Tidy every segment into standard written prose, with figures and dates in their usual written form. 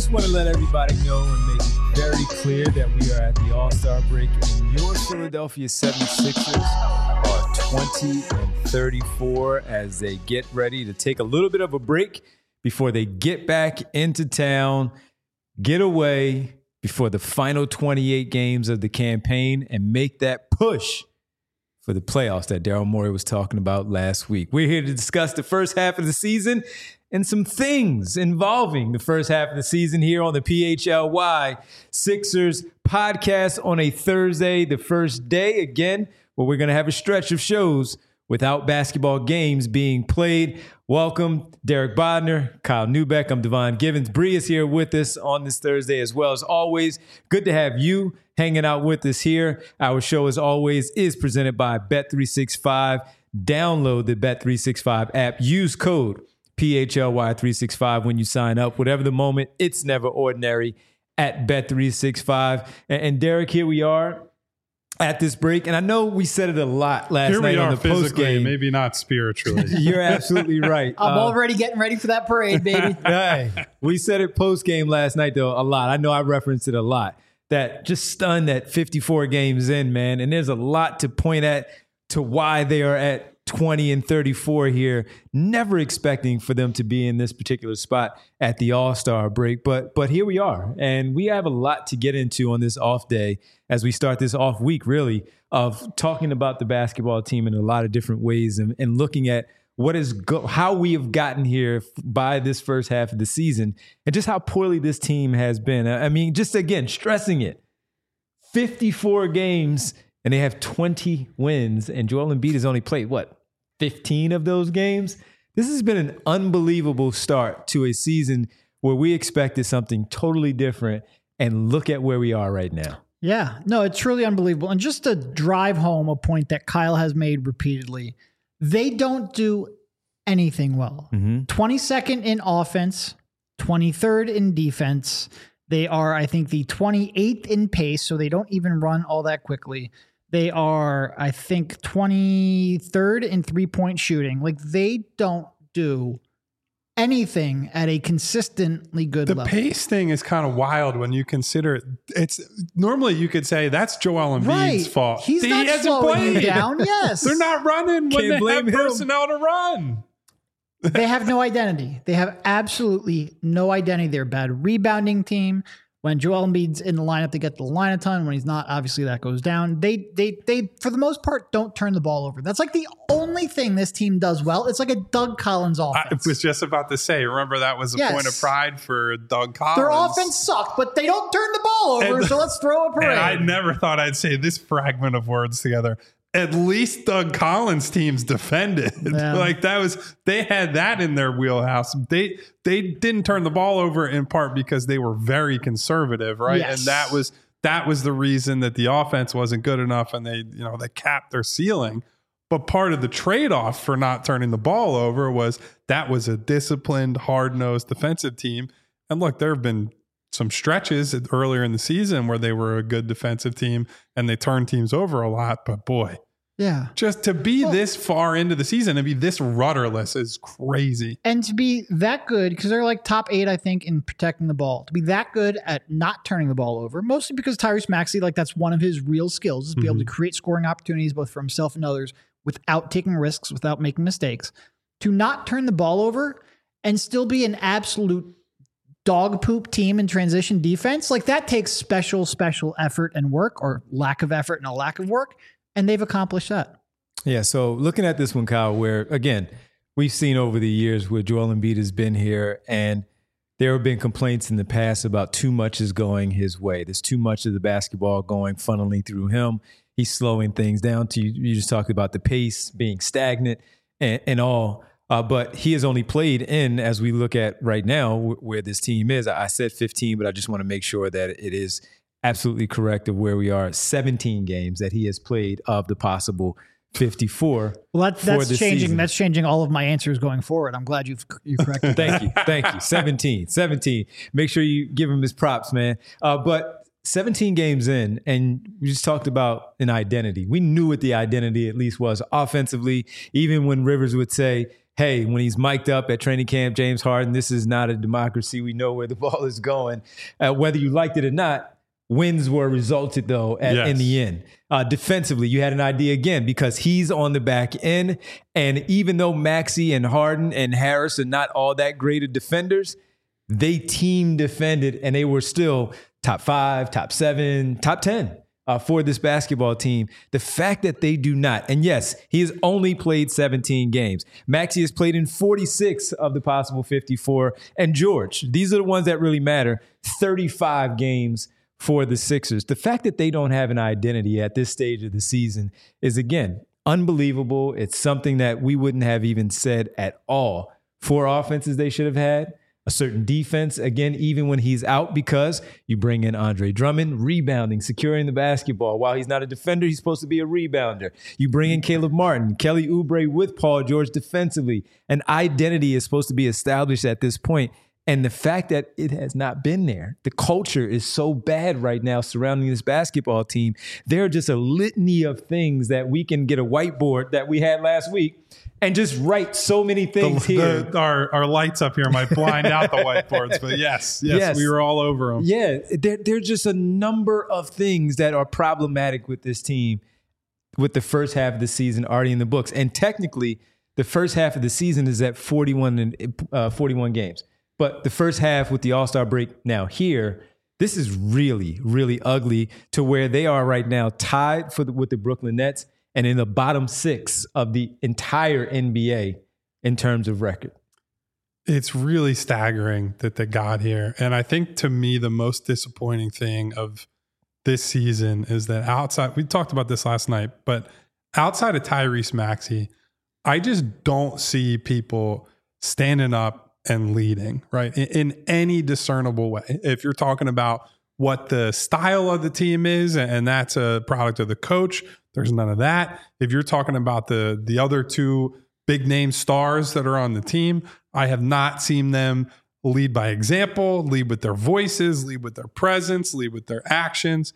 just want to let everybody know and make it very clear that we are at the All-Star break, and your Philadelphia 76ers are 20-34 as they get ready to take a little bit of a break before they get back into town, get away before the final 28 games of the campaign, and make that push for the playoffs that Daryl Morey was talking about last week. We're here to discuss the first half of the season and some things involving the first half of the season here on the PHLY Sixers podcast on a Thursday, the first day, again, where we're going to have a stretch of shows without basketball games being played. Welcome, Derek Bodner, Kyle Newbeck. I'm Devon Givens. Bree is here with us on this Thursday as well. As always, good to have you hanging out with us here. Our show, as always, is presented by Bet365. Download the Bet365 app. Use code PHLY365 when you sign up. Whatever the moment, it's never ordinary at Bet365. And Derek, here we are at this break. And I know we said it a lot last night on the post game. Maybe not spiritually. You're absolutely right. I'm already getting ready for that parade, baby. Hey, we said it post game last night, though, a lot. I know I referenced it a lot. That just stunned at 54 games in, man. And there's a lot to point at to why they are at 20-34 here, never expecting for them to be in this particular spot at the All-Star break. But here we are, and we have a lot to get into on this off day as we start this off week, really, of talking about the basketball team in a lot of different ways and looking at how we have gotten here by this first half of the season and just how poorly this team has been. I mean, just again, stressing it. 54 games, and they have 20 wins, and Joel Embiid has only played, 15 of those games? This has been an unbelievable start to a season where we expected something totally different, and look at where we are right now. Yeah, no, it's truly unbelievable. And just to drive home a point that Kyle has made repeatedly, they don't do anything well. 22nd in offense, 23rd in defense. They are, I think, the 28th in pace, so they don't even run all that quickly. They are, I think, 23rd in three-point shooting. Like, they don't do anything at a consistently good level. The pace thing is kind of wild when you consider it's normally you could say that's Joel Embiid's fault. He hasn't slowing you down. Yes. They're not running when they have personnel to run. They have no identity. They have absolutely no identity. They're a bad rebounding team. When Joel Embiid's in the lineup, they get the line a ton. When he's not, obviously that goes down. They for the most part, don't turn the ball over. That's like the only thing this team does well. It's like a Doug Collins offense. I was just about to say, remember that was a point of pride for Doug Collins. Their offense sucked, but they don't turn the ball over, so let's throw a parade. And I never thought I'd say this fragment of words together. At least Doug Collins' teams defended. Yeah. Like they had that in their wheelhouse. They didn't turn the ball over in part because they were very conservative, right? Yes. And that was the reason that the offense wasn't good enough, and they capped their ceiling. But part of the trade-off for not turning the ball over was that was a disciplined, hard-nosed defensive team. And look, there have been some stretches earlier in the season where they were a good defensive team and they turned teams over a lot. But boy, yeah, just to be this far into the season and be this rudderless is crazy. And to be that good, because they're like top 8, I think, in protecting the ball, to be that good at not turning the ball over, mostly because Tyrese Maxey, like that's one of his real skills, is to be able to create scoring opportunities both for himself and others without taking risks, without making mistakes. To not turn the ball over and still be an absolute dog poop team in transition defense, like that takes special effort and work, or lack of effort and a lack of work. And they've accomplished that. Yeah, so looking at this one, Kyle, where, again, we've seen over the years where Joel Embiid has been here, and there have been complaints in the past about too much is going his way. There's too much of the basketball funneling through him. He's slowing things down. You just talked about the pace being stagnant and all. But he has only played in, as we look at right now, where this team is. I said 15, but I just want to make sure that it is absolutely correct of where we are. 17 games that he has played of the possible 54. Well, that's changing. Season. That's changing all of my answers going forward. I'm glad you corrected. Thank you. 17. Make sure you give him his props, man. But 17 games in, and we just talked about an identity. We knew what the identity at least was offensively, even when Rivers would say, hey, when he's mic'd up at training camp, James Harden, this is not a democracy. We know where the ball is going. Whether you liked it or not, wins were resulted, though, in the end. Defensively, you had an idea again because he's on the back end. And even though Maxey and Harden and Harris are not all that great of defenders, they team defended and they were still top 5, top 7, top 10 for this basketball team. The fact that they do not, and yes, he has only played 17 games. Maxey has played in 46 of the possible 54. And George, these are the ones that really matter, 35 games for the Sixers. The fact that they don't have an identity at this stage of the season is, again, unbelievable. It's something that we wouldn't have even said at all. 4 offenses they should have had. A certain defense, again, even when he's out, because you bring in Andre Drummond, rebounding, securing the basketball. While he's not a defender, he's supposed to be a rebounder. You bring in Caleb Martin, Kelly Oubre with Paul George defensively. An identity is supposed to be established at this point. And the fact that it has not been there, the culture is so bad right now surrounding this basketball team. There are just a litany of things that we can get a whiteboard that we had last week and just write so many things here. Our lights up here might blind out the whiteboards, but yes, we were all over them. Yeah, there's just a number of things that are problematic with this team with the first half of the season already in the books. And technically, the first half of the season is at 41 games. But the first half with the All-Star break now here, this is really, really ugly to where they are right now tied with the Brooklyn Nets and in the bottom 6 of the entire NBA in terms of record. It's really staggering that they got here. And I think to me, the most disappointing thing of this season is that outside, we talked about this last night, but outside of Tyrese Maxey, I just don't see people standing up and leading, right? In any discernible way. If you're talking about what the style of the team is, and that's a product of the coach, there's none of that. If you're talking about the other 2 big name stars that are on the team, I have not seen them lead by example, lead with their voices, lead with their presence, lead with their actions.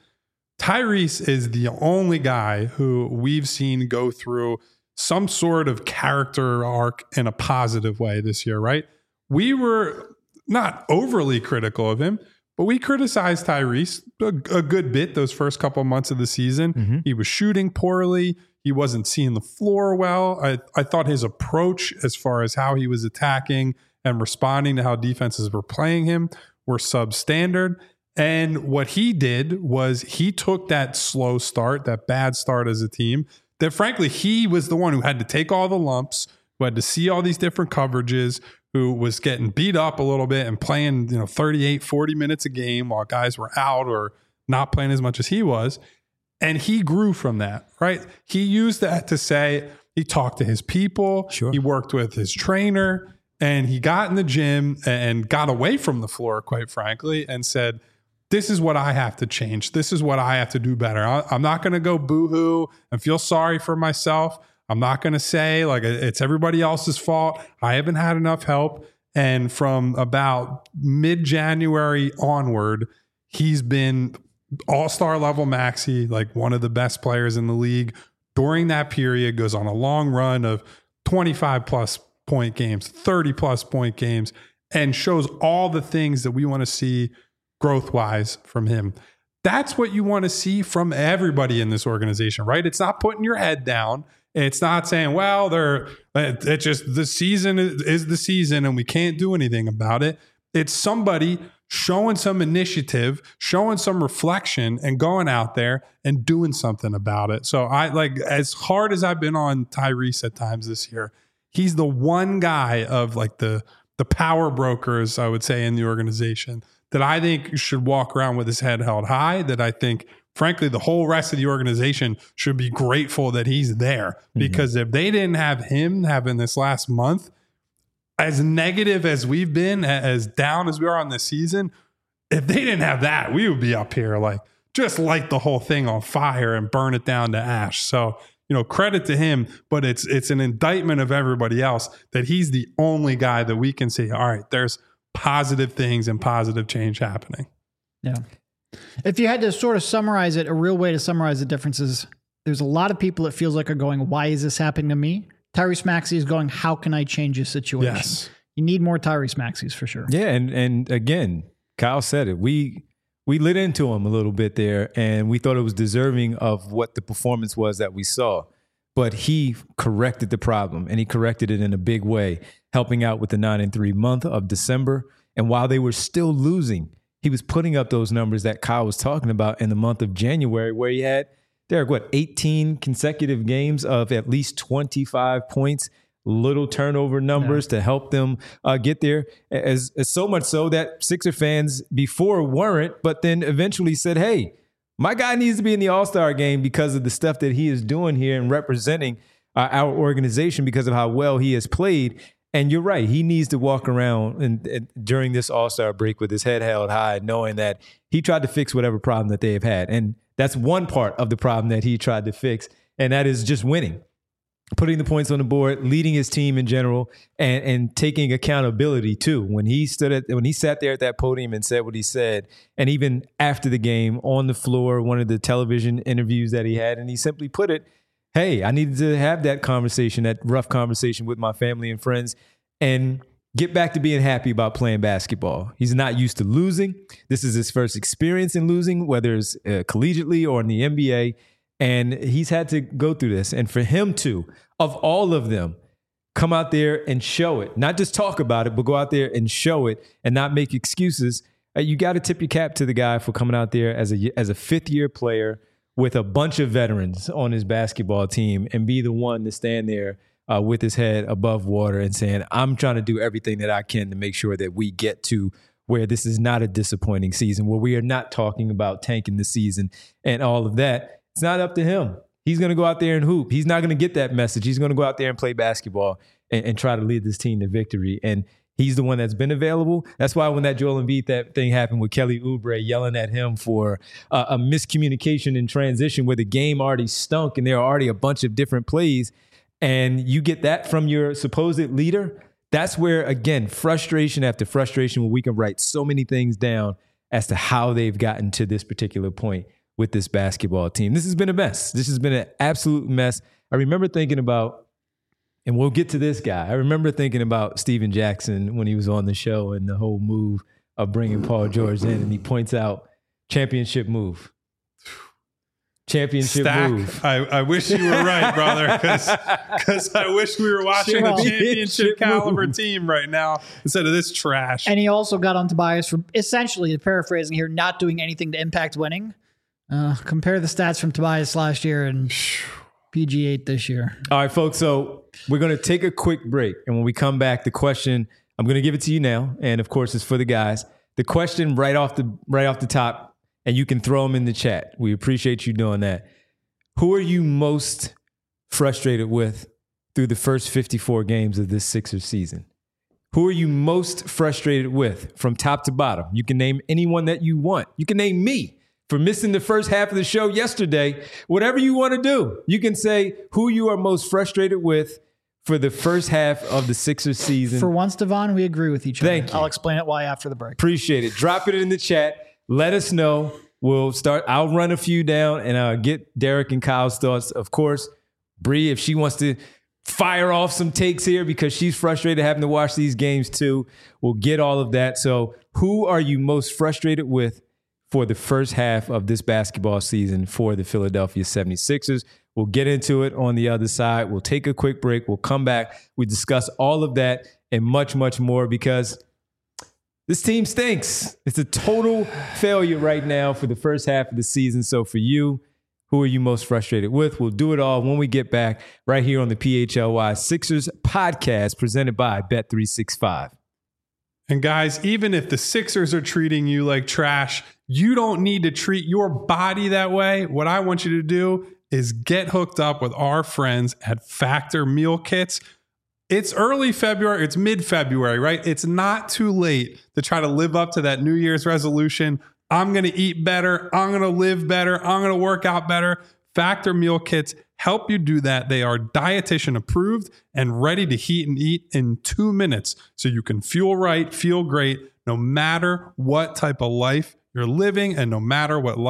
Tyrese is the only guy who we've seen go through some sort of character arc in a positive way this year, right? We were not overly critical of him, but we criticized Tyrese a good bit those first couple of months of the season. Mm-hmm. He was shooting poorly. He wasn't seeing the floor well. I thought his approach as far as how he was attacking and responding to how defenses were playing him were substandard. And what he did was he took that slow start, that bad start as a team, that frankly, he was the one who had to take all the lumps, who had to see all these different coverages, who was getting beat up a little bit and playing, 38, 40 minutes a game while guys were out or not playing as much as he was. And he grew from that, right? He used that to say, he talked to his people, He worked with his trainer, and he got in the gym and got away from the floor, quite frankly, and said, this is what I have to change. This is what I have to do better. I'm not going to go boo-hoo and feel sorry for myself. I'm not going to say like it's everybody else's fault. I haven't had enough help. And from about mid-January onward, he's been all-star level Maxey, like one of the best players in the league. During that period, goes on a long run of 25-plus point games, 30-plus point games, and shows all the things that we want to see growth-wise from him. That's what you want to see from everybody in this organization, right? It's not putting your head down. It's not saying, well, it's just the season is the season and we can't do anything about it. It's somebody showing some initiative, showing some reflection, and going out there and doing something about it. So as hard as I've been on Tyrese at times this year, he's the one guy of like the power brokers, I would say, in the organization that I think should walk around with his head held high, that I think, frankly, the whole rest of the organization should be grateful that he's there. Because if they didn't have him having this last month, as negative as we've been, as down as we are on this season, if they didn't have that, we would be up here like just light the whole thing on fire and burn it down to ash. So, credit to him, but it's an indictment of everybody else that he's the only guy that we can say, all right, there's positive things and positive change happening. Yeah. If you had to sort of summarize it, a real way to summarize the differences, there's a lot of people it feels like are going, why is this happening to me? Tyrese Maxey is going, how can I change his situation? Yes. You need more Tyrese Maxeys for sure. Yeah, and again, Kyle said it. We lit into him a little bit there, and we thought it was deserving of what the performance was that we saw. But he corrected the problem, and he corrected it in a big way, helping out with the 9-3 month of December. And while they were still losing, he was putting up those numbers that Kyle was talking about in the month of January, where he had, Derek, 18 consecutive games of at least 25 points, little turnover numbers to help them get there. As so much so that Sixer fans before weren't, but then eventually said, hey, my guy needs to be in the All-Star game because of the stuff that he is doing here and representing our organization because of how well he has played. And you're right. He needs to walk around and during this All-Star break with his head held high, knowing that he tried to fix whatever problem that they have had. And that's one part of the problem that he tried to fix, and that is just winning, putting the points on the board, leading his team in general, and taking accountability too. When he sat there at that podium and said what he said, and even after the game on the floor, one of the television interviews that he had, and he simply put it, hey, I needed to have that conversation, that rough conversation with my family and friends, and get back to being happy about playing basketball. He's not used to losing. This is his first experience in losing, whether it's collegiately or in the NBA. And he's had to go through this. And for him to, of all of them, come out there and show it, not just talk about it, but go out there and show it and not make excuses. You got to tip your cap to the guy for coming out there as a fifth-year player with a bunch of veterans on his basketball team and be the one to stand there with his head above water and saying, I'm trying to do everything that I can to make sure that we get to where this is not a disappointing season, where we are not talking about tanking the season and all of that. It's not up to him. He's going to go out there and hoop. He's not going to get that message. He's going to go out there and play basketball and try to lead this team to victory. And he's the one that's been available. That's why when that Joel Embiid thing happened with Kelly Oubre yelling at him for a miscommunication in transition where the game already stunk and there are already a bunch of different plays, and you get that from your supposed leader, that's where, again, frustration after frustration, where we can write so many things down as to how they've gotten to this particular point with this basketball team. This has been a mess. This has been an absolute mess. I remember thinking about, and we'll get to this guy, I remember thinking about Steven Jackson when he was on the show and the whole move of bringing Paul George in, and he points out championship move. Championship Stack. move. I wish you were right, brother, because I wish we were watching a championship caliber team right now instead of this trash. And he also got on Tobias for essentially, paraphrasing here, not doing anything to impact winning. Compare the stats from Tobias last year and PG8 this year. All right, folks. So we're going to take a quick break. And when we come back, the question, I'm going to give it to you now. And of course, it's for the guys. The question right off the top, and you can throw them in the chat. We appreciate you doing that. Who are you most frustrated with through the first 54 games of this Sixers season? Who are you most frustrated with from top to bottom? You can name anyone that you want. You can name me for missing the first half of the show yesterday. Whatever you want to do. You can say who you are most frustrated with for the first half of the Sixers season. For once, Devon, we agree with each other. Thank you. I'll explain it why after the break. Appreciate it. Drop it in the chat. Let us know. We'll start. I'll run a few down and get Derek and Kyle's thoughts. Of course, Bree, if she wants to fire off some takes here because she's frustrated having to watch these games too, we'll get all of that. So who are you most frustrated with for the first half of this basketball season for the Philadelphia 76ers? We'll get into it on the other side. We'll take a quick break. We'll come back. We discuss all of that and much, much more because this team stinks. It's a total failure right now for the first half of the season. So for you, who are you most frustrated with? We'll do it all when we get back right here on the PHLY Sixers podcast presented by Bet365. And guys, even if the Sixers are treating you like trash, you don't need to treat your body that way. What I want you to do is get hooked up with our friends at Factor Meal Kits. It's early February. It's mid-February, right? It's not too late to try to live up to that New Year's resolution. I'm going to eat better. I'm going to live better. I'm going to work out better. Factor Meal Kits help you do that. They are dietitian approved and ready to heat and eat in 2 minutes. So you can feel right, feel great, no matter what type of life you're living and no matter what life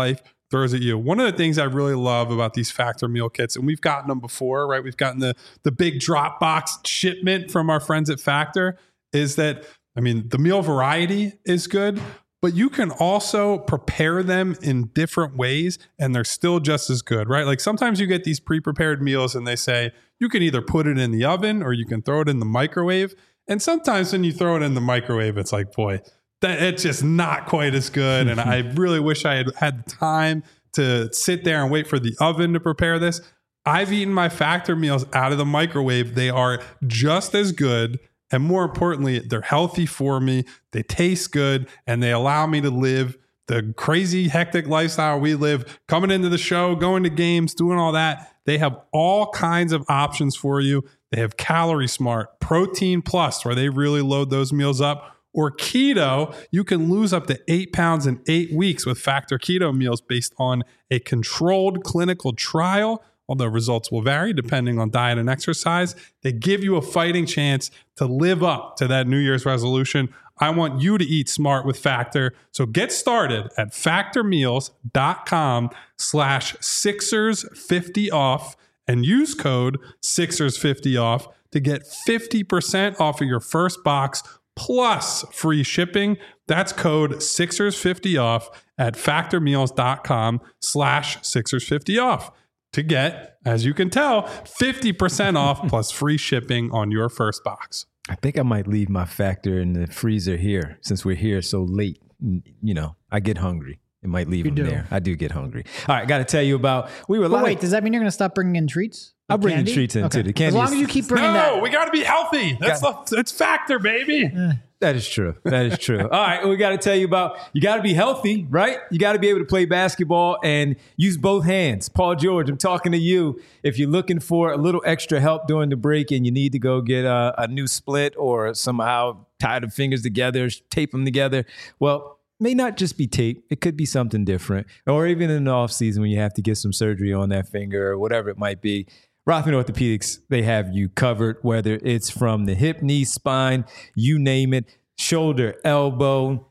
throws at you. One of the things I really love about these Factor meal kits, and we've gotten them before, right? We've gotten the big drop box shipment from our friends at Factor, is that, I mean, the meal variety is good, but you can also prepare them in different ways and they're still just as good, right? Like sometimes you get these pre-prepared meals and they say you can either put it in the oven or you can throw it in the microwave. And sometimes when you throw it in the microwave, it's like, boy, it's just not quite as good. And I really wish I had the time to sit there and wait for the oven to prepare this. I've eaten my Factor meals out of the microwave. They are just as good. And more importantly, they're healthy for me. They taste good and they allow me to live the crazy, hectic lifestyle we live, coming into the show, going to games, doing all that. They have all kinds of options for you. They have Calorie Smart, Protein Plus, where they really load those meals up, or Keto. You can lose up to 8 pounds in 8 weeks with Factor Keto meals based on a controlled clinical trial. Although results will vary depending on diet and exercise, they give you a fighting chance to live up to that New Year's resolution. I want you to eat smart with Factor. So get started at factormeals.com/Sixers50off and use code Sixers50off to get 50% off of your first box plus free shipping. That's code Sixers50off at factormeals.com/Sixers50off. to get, as you can tell, 50% off plus free shipping on your first box. I think I might leave my Factor in the freezer here since we're here so late. You know, I get hungry. It might leave them there. I do get hungry. All right, got to tell you about, wait, does that mean you're going to stop bringing in treats? I'll bring the treats into the candy. As long as you keep bringing that. No, we got to be healthy. That's Factor, baby. That is true. That is true. All right, we got to tell you about, you got to be healthy, right? You got to be able to play basketball and use both hands. Paul George, I'm talking to you. If you're looking for a little extra help during the break and you need to go get a new split or somehow tie the fingers together, tape them together, well, may not just be tape. It could be something different. Or even in the off season when you have to get some surgery on that finger or whatever it might be. Rothman Orthopedics, they have you covered, whether it's from the hip, knee, spine, you name it, shoulder, elbow,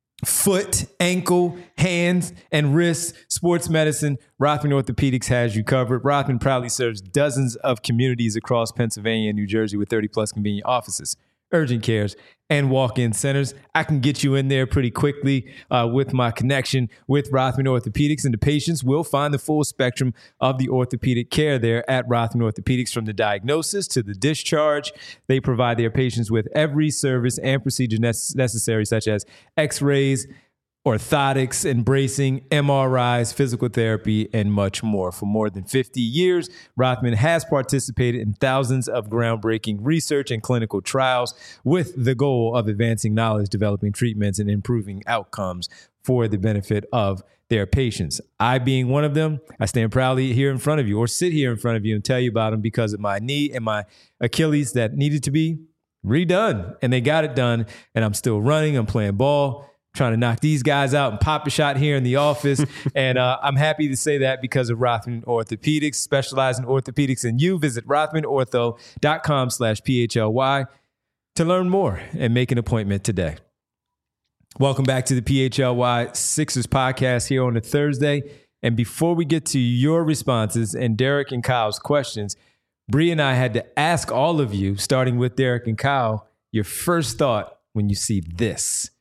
foot, ankle, hands, and wrists, sports medicine. Rothman Orthopedics has you covered. Rothman proudly serves dozens of communities across Pennsylvania and New Jersey with 30 plus convenient offices, urgent cares, and walk-in centers. I can get you in there pretty quickly with my connection with Rothman Orthopedics, and the patients will find the full spectrum of the orthopedic care there at Rothman Orthopedics, from the diagnosis to the discharge. They provide their patients with every service and procedure necessary, such as x-rays, orthotics and bracing, MRIs, physical therapy, and much more. For more than 50 years, Rothman has participated in thousands of groundbreaking research and clinical trials with the goal of advancing knowledge, developing treatments, and improving outcomes for the benefit of their patients. I being one of them, I stand proudly here in front of you, or sit here in front of you and tell you about them because of my knee and my Achilles that needed to be redone. And they got it done, and I'm still running, I'm playing ball, trying to knock these guys out and pop a shot here in the office. And I'm happy to say that because of Rothman Orthopedics, specialize in orthopedics and you. Visit rothmanortho.com/PHLY to learn more and make an appointment today. Welcome back to the PHLY Sixers podcast here on a Thursday. And before we get to your responses and Derek and Kyle's questions, Bree and I had to ask all of you, starting with Derek and Kyle, your first thought when you see this.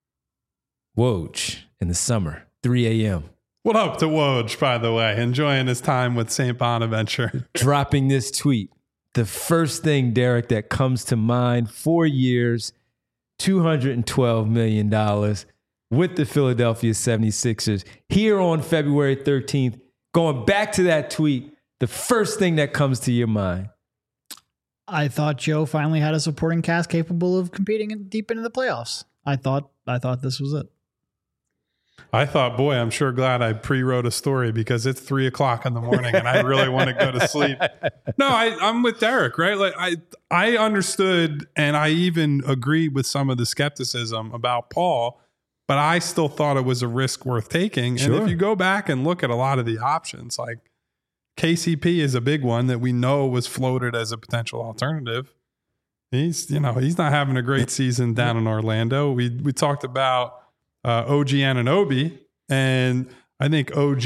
Woj in the summer, 3 a.m. What up to Woj, by the way? Enjoying his time with St. Bonaventure. Dropping this tweet. The first thing, Derek, that comes to mind, 4 years, $212 million with the Philadelphia 76ers. Here on February 13th, going back to that tweet, the first thing that comes to your mind. I thought Joe finally had a supporting cast capable of competing deep into the playoffs. I thought this was it. I thought, boy, I'm sure glad I pre-wrote a story because it's 3:00 in the morning and I really want to go to sleep. No, I'm with Derek, right? Like I understood and I even agreed with some of the skepticism about Paul, but I still thought it was a risk worth taking. Sure. And if you go back and look at a lot of the options, like KCP is a big one that we know was floated as a potential alternative. He's not having a great season down in Orlando. We talked about OG Anunoby, and I think OG,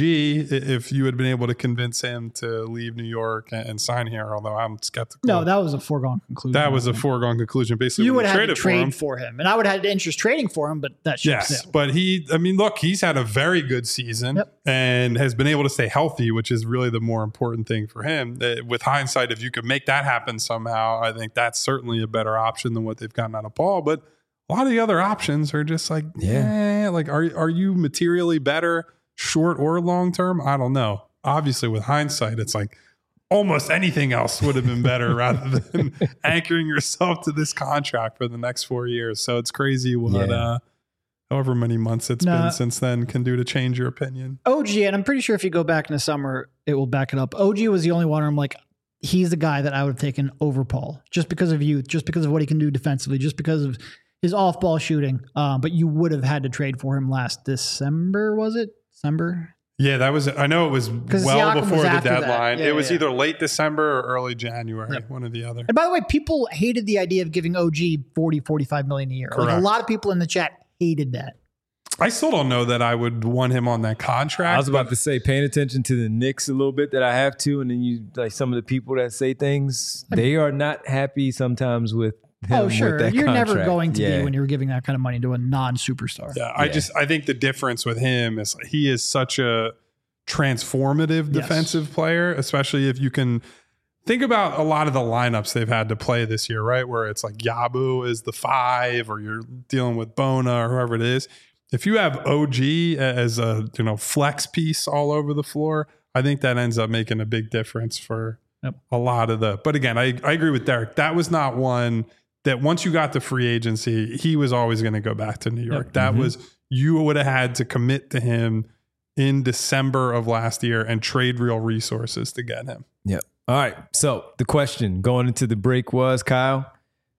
if you had been able to convince him to leave New York and sign here, although I'm skeptical. No, that was a foregone conclusion. That was a foregone conclusion. Basically, you would have had to trade for him, and I would have had interest trading for him, but that ship sailed. But look, he's had a very good season and has been able to stay healthy, which is really the more important thing for him. With hindsight, if you could make that happen somehow, I think that's certainly a better option than what they've gotten out of Paul. But a lot of the other options are just like, like are you materially better? Short or long term, I don't know. Obviously, with hindsight, it's like almost anything else would have been better rather than anchoring yourself to this contract for the next 4 years. So it's crazy what however many months it's been since then can do to change your opinion. OG, and I'm pretty sure if you go back in the summer, it will back it up. OG was the only one where I'm like, he's the guy that I would have taken over Paul just because of youth, just because of what he can do defensively, just because of his off-ball shooting. But you would have had to trade for him last December, was it? December? Yeah, that was. I know it was well before the deadline. It was either late December or early January, one or the other. And by the way, people hated the idea of giving OG 40, 45 million a year. Like a lot of people in the chat hated that. I still don't know that I would want him on that contract. I was about to say, paying attention to the Knicks a little bit that I have to, and then you like some of the people that say things, they are not happy sometimes with him. Oh, sure. With that You're contract. Never going to be when you're giving that kind of money to a non-superstar. Yeah, I think the difference with him is he is such a transformative defensive player, especially if you can think about a lot of the lineups they've had to play this year, right? Where it's like Yabu is the 5 or you're dealing with Bona or whoever it is. If you have OG as a flex piece all over the floor, I think that ends up making a big difference for a lot of the. But again, I agree with Derek. That was not one that once you got to free agency, he was always going to go back to New York. That was, you would have had to commit to him in December of last year and trade real resources to get him. Yep. All right. So the question going into the break was, Kyle,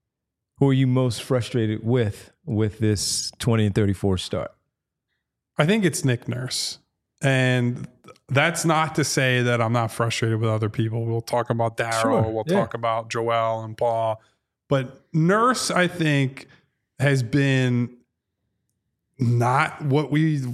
who are you most frustrated with this 20-34 start? I think it's Nick Nurse. And that's not to say that I'm not frustrated with other people. We'll talk about Daryl. We'll talk about Joel and Paul. But Nurse, I think, has been not what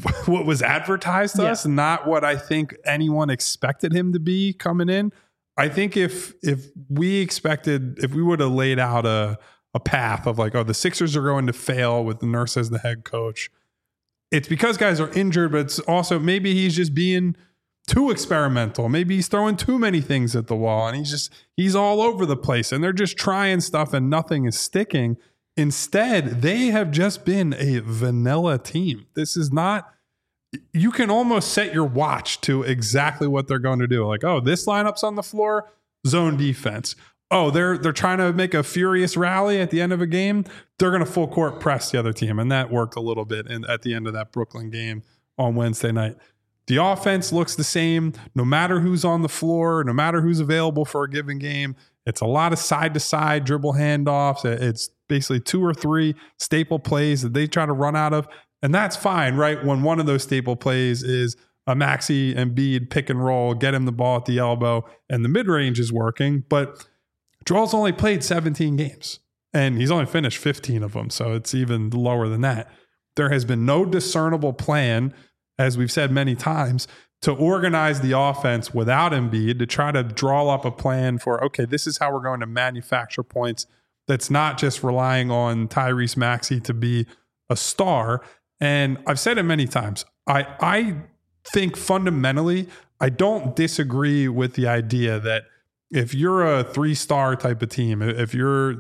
was advertised to us, not what I think anyone expected him to be coming in. I think if we would have laid out a path of like, the Sixers are going to fail with the Nurse as the head coach, it's because guys are injured, but it's also maybe he's just being too experimental. Maybe he's throwing too many things at the wall and he's all over the place and they're just trying stuff and nothing is sticking. Instead, they have just been a vanilla team. This is not, you can almost set your watch to exactly what they're going to do. Like, this lineup's on the floor, zone defense. They're trying to make a furious rally at the end of a game. They're going to full court press the other team. And that worked a little bit at the end of that Brooklyn game on Wednesday night. The offense looks the same, no matter who's on the floor, no matter who's available for a given game. It's a lot of side-to-side dribble handoffs. It's basically 2 or 3 staple plays that they try to run out of. And that's fine, right? When one of those staple plays is a Maxey Embiid pick and roll, get him the ball at the elbow, and the mid-range is working. But Joel's only played 17 games, and he's only finished 15 of them, so it's even lower than that. There has been no discernible plan, as we've said many times, to organize the offense without Embiid, to try to draw up a plan for, okay, this is how we're going to manufacture points that's not just relying on Tyrese Maxey to be a star. And I've said it many times. I think fundamentally, I don't disagree with the idea that if you're a 3-star type of team, if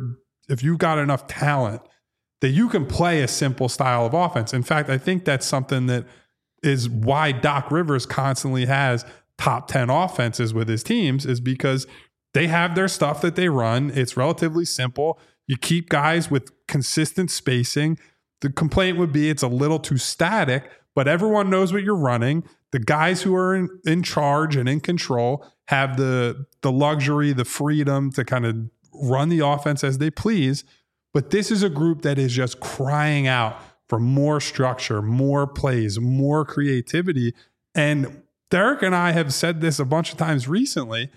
you've got enough talent, that you can play a simple style of offense. In fact, I think that's something that is why Doc Rivers constantly has top 10 offenses with his teams, is because they have their stuff that they run. It's relatively simple. You keep guys with consistent spacing. The complaint would be it's a little too static, but everyone knows what you're running. The guys who are in charge and in control have the luxury, the freedom to kind of run the offense as they please. But this is a group that is just crying out for more structure, more plays, more creativity. And Derek and I have said this a bunch of times recently.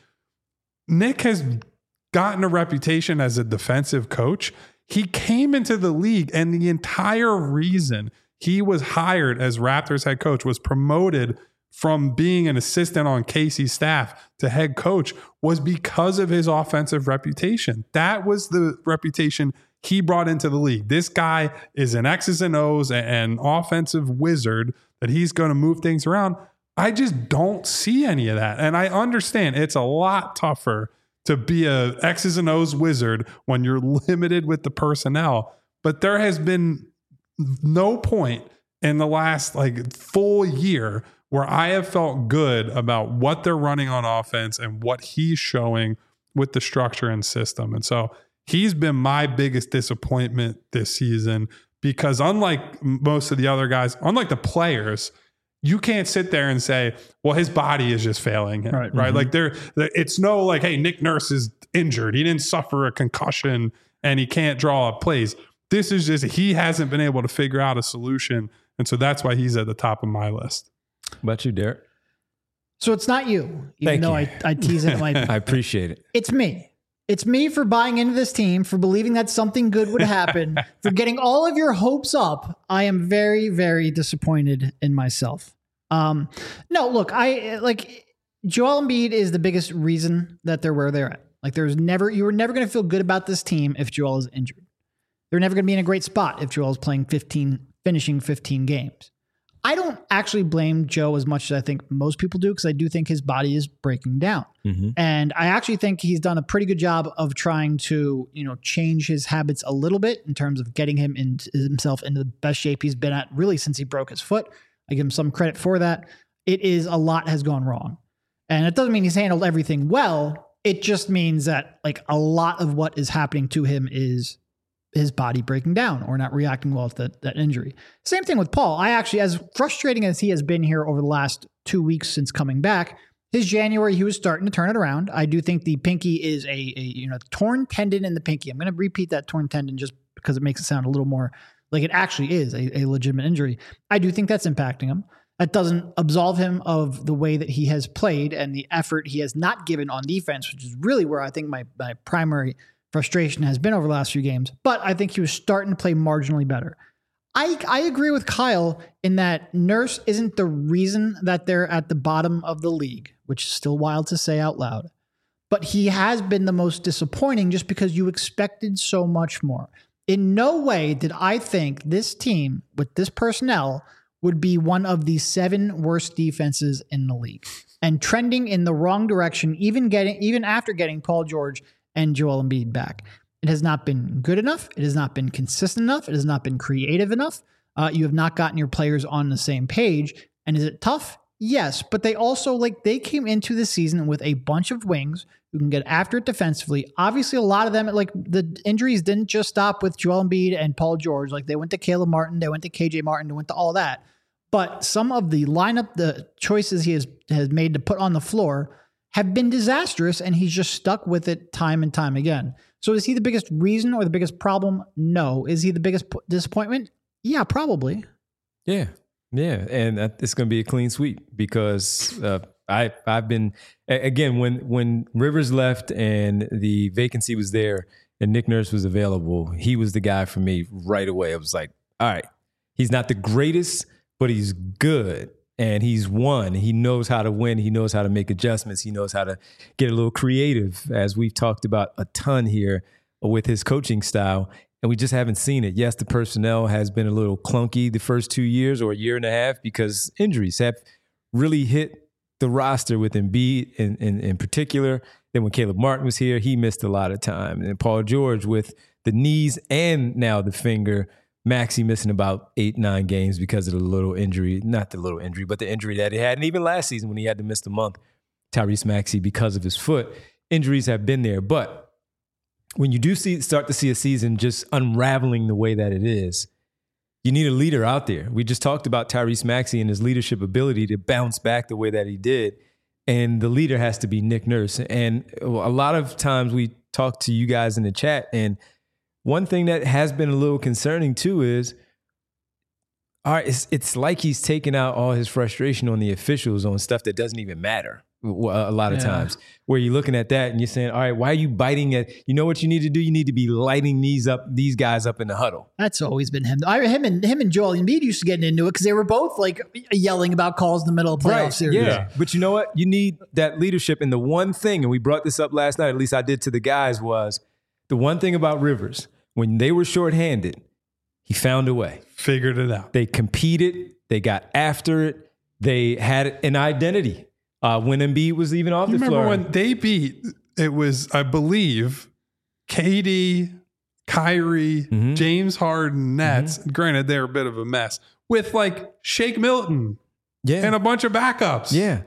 Nick has gotten a reputation as a defensive coach. He came into the league, and the entire reason he was hired as Raptors head coach, was promoted from being an assistant on Casey's staff to head coach was because of his offensive reputation. That was the reputation he brought into the league. This guy is an X's and O's and offensive wizard that he's going to move things around. I just don't see any of that. And I understand it's a lot tougher to be a X's and O's wizard when you're limited with the personnel. But there has been no point in the last full year where I have felt good about what they're running on offense and what he's showing with the structure and system. And so he's been my biggest disappointment this season because unlike most of the other guys, unlike the players, you can't sit there and say, well, his body is just failing him, right? Mm-hmm. It's no hey, Nick Nurse is injured. He didn't suffer a concussion and he can't draw up plays. This is just, he hasn't been able to figure out a solution. And so that's why he's at the top of my list. What about you, Derek? So it's not you, even though I tease it. I appreciate it. It's me. It's me for buying into this team, for believing that something good would happen, for getting all of your hopes up. I am very, very disappointed in myself. No, look, Joel Embiid is the biggest reason that they're where they're at. You were never going to feel good about this team if Joel is injured. They're never going to be in a great spot if Joel is finishing 15 games. I don't actually blame Joe as much as I think most people do, because I do think his body is breaking down. Mm-hmm. And I actually think he's done a pretty good job of trying to, change his habits a little bit in terms of getting himself into the best shape he's been at really since he broke his foot. I give him some credit for that. A lot has gone wrong. And it doesn't mean he's handled everything well. It just means that a lot of what is happening to him is his body breaking down or not reacting well to that injury. Same thing with Paul. I actually, as frustrating as he has been here over the last 2 weeks since coming back, his January, he was starting to turn it around. I do think the pinky is a torn tendon in the pinky. I'm going to repeat that torn tendon just because it makes it sound a little more like it actually is a legitimate injury. I do think that's impacting him. That doesn't absolve him of the way that he has played and the effort he has not given on defense, which is really where I think my primary frustration has been over the last few games. But I think he was starting to play marginally better. I agree with Kyle in that Nurse isn't the reason that they're at the bottom of the league, which is still wild to say out loud. But he has been the most disappointing just because you expected so much more. In no way did I think this team with this personnel would be one of the 7 worst defenses in the league and trending in the wrong direction, even after getting Paul George and Joel Embiid back. It has not been good enough. It has not been consistent enough. It has not been creative enough. You have not gotten your players on the same page. And is it tough? Yes. But they also, they came into the season with a bunch of wings who can get after it defensively. Obviously, a lot of them, the injuries didn't just stop with Joel Embiid and Paul George. They went to Caleb Martin. They went to KJ Martin. They went to all that. But some of the lineup, the choices he has made to put on the floor have been disastrous, and he's just stuck with it time and time again. So is he the biggest reason or the biggest problem? No. Is he the biggest disappointment? Yeah, probably. Yeah. And it's going to be a clean sweep because I've been, again, when Rivers left and the vacancy was there and Nick Nurse was available, he was the guy for me right away. I was like, all right, he's not the greatest, but he's good. And he's won. He knows how to win. He knows how to make adjustments. He knows how to get a little creative, as we've talked about a ton here with his coaching style. And we just haven't seen it. Yes, the personnel has been a little clunky the first 2 years or a year and a half because injuries have really hit the roster with Embiid in particular. Then when Caleb Martin was here, he missed a lot of time. And Paul George with the knees and now the finger. Maxey missing about 8-9 games because of the little injury, not the little injury, but the injury that he had. And even last season when he had to miss the month, Tyrese Maxey, because of his foot, injuries have been there. But when you do start to see a season just unraveling the way that it is, you need a leader out there. We just talked about Tyrese Maxey and his leadership ability to bounce back the way that he did. And the leader has to be Nick Nurse. And a lot of times we talk to you guys in the chat, and one thing that has been a little concerning too is, all right, it's like he's taking out all his frustration on the officials on stuff that doesn't even matter. a lot of times, where you're looking at that and you're saying, all right, why are you biting at, you know what you need to do? You need to be lighting these guys up in the huddle. That's always been him. Him and Joel Embiid used to get into it because they were both like yelling about calls in the middle of playoff series. Yeah. But you know what? You need that leadership. And the one thing, and we brought this up last night, at least I did to the guys, was the one thing about Rivers, when they were shorthanded, he found a way. Figured it out. They competed. They got after it. They had an identity. When Embiid was even off the floor. Remember when they beat, it was, I believe, KD, Kyrie, James Harden, Nets. Granted, they're a bit of a mess. With like Shake Milton and a bunch of backups. Yeah.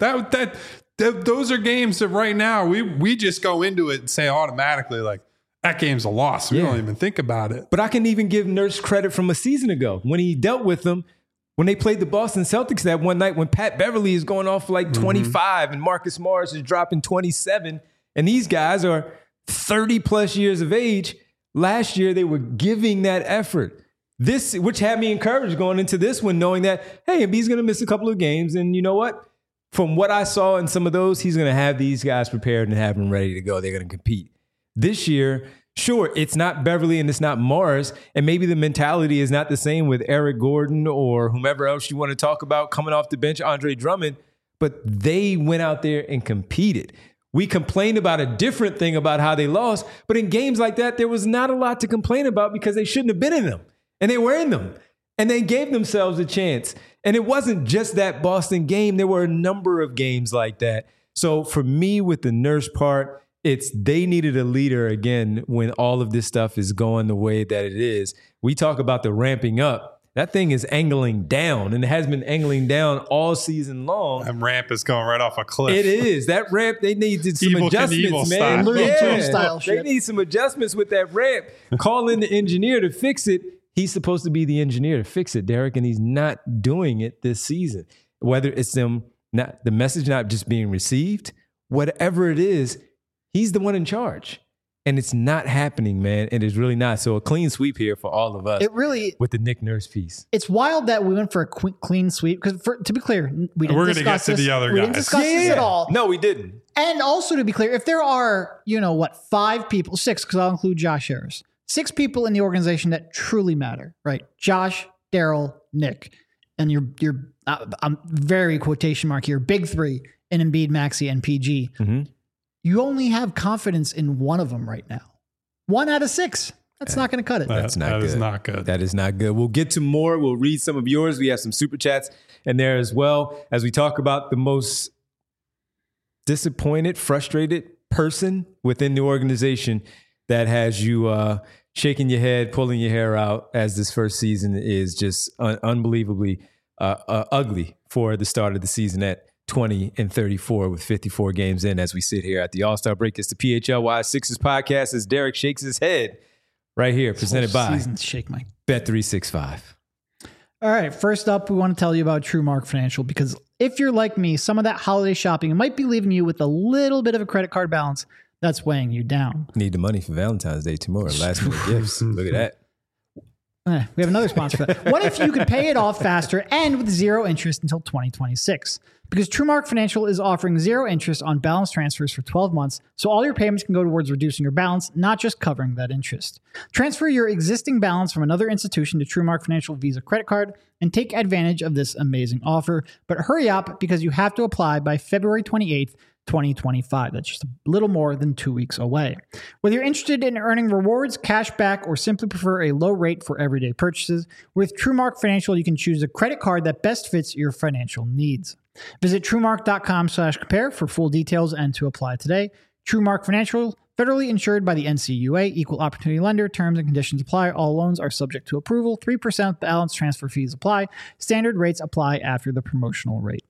Those are games that right now we just go into it and say automatically like, that game's a loss. We don't even think about it. But I can even give Nurse credit from a season ago when he dealt with them. When they played the Boston Celtics that one night when Pat Beverly is going off for like 25 and Marcus Morris is dropping 27 and these guys are 30 plus years of age, last year they were giving that effort. This, which had me encouraged going into this one, knowing that, hey, Embiid's going to miss a couple of games. And you know what? From what I saw in some of those, he's going to have these guys prepared and have them ready to go. They're going to compete. This year, sure, it's not Beverly and it's not Morris, and maybe the mentality is not the same with Eric Gordon or whomever else you want to talk about coming off the bench, Andre Drummond, but they went out there and competed. We complained about a different thing about how they lost, but in games like that, there was not a lot to complain about because they shouldn't have been in them, and they were in them, and they gave themselves a chance. And it wasn't just that Boston game. There were a number of games like that. So for me, with the Nurse part, they needed a leader again when all of this stuff is going the way that it is. We talk about the ramping up. That thing is angling down, and it has been angling down all season long. That ramp is going right off a cliff. It is. That ramp, they needed some adjustments, man. They need some adjustments with that ramp. Call in the engineer to fix it. He's supposed to be the engineer to fix it, Derek, and he's not doing it this season. Whether it's the message not just being received, whatever it is, he's the one in charge. And it's not happening, man. And it's really not. So a clean sweep here for all of us. It really, with the Nick Nurse piece. It's wild that we went for a clean sweep. Because to be clear, we didn't discuss this. The other guys. We didn't discuss this at all. No, we didn't. And also to be clear, if there are, 5 people, 6, because I'll include Josh Harris, 6 people in the organization that truly matter, right? Josh, Daryl, Nick, and your I'm very quotation mark here, big 3 in Embiid, Maxey, and PG. You only have confidence in one of them right now. 1 out of 6. That's not going to cut it. That's not good. That is not good. That is not good. We'll get to more. We'll read some of yours. We have some super chats in there as well as we talk about the most disappointed, frustrated person within the organization that has you shaking your head, pulling your hair out as this first season is just unbelievably ugly for the start of the season at 20-34 with 54 games in as we sit here at the All-Star break. It's the PHLY Sixers podcast as Derek shakes his head right here, presented by Bet365. All right, first up, we want to tell you about TrueMark Financial because if you're like me, some of that holiday shopping might be leaving you with a little bit of a credit card balance that's weighing you down. Need the money for Valentine's Day tomorrow. Last minute gifts. Look at that. We have another sponsor for that. What if you could pay it off faster and with 0 interest until 2026? Because TrueMark Financial is offering 0 interest on balance transfers for 12 months, so all your payments can go towards reducing your balance, not just covering that interest. Transfer your existing balance from another institution to TrueMark Financial Visa credit card and take advantage of this amazing offer. But hurry up because you have to apply by February 28th, 2025. That's just a little more than 2 weeks away. Whether you're interested in earning rewards, cash back, or simply prefer a low rate for everyday purchases, with TrueMark Financial, you can choose a credit card that best fits your financial needs. Visit TrueMark.com/compare for full details and to apply today. TrueMark Financial, federally insured by the NCUA, equal opportunity lender. Terms and conditions apply. All loans are subject to approval. 3% balance transfer fees apply. Standard rates apply after the promotional rate.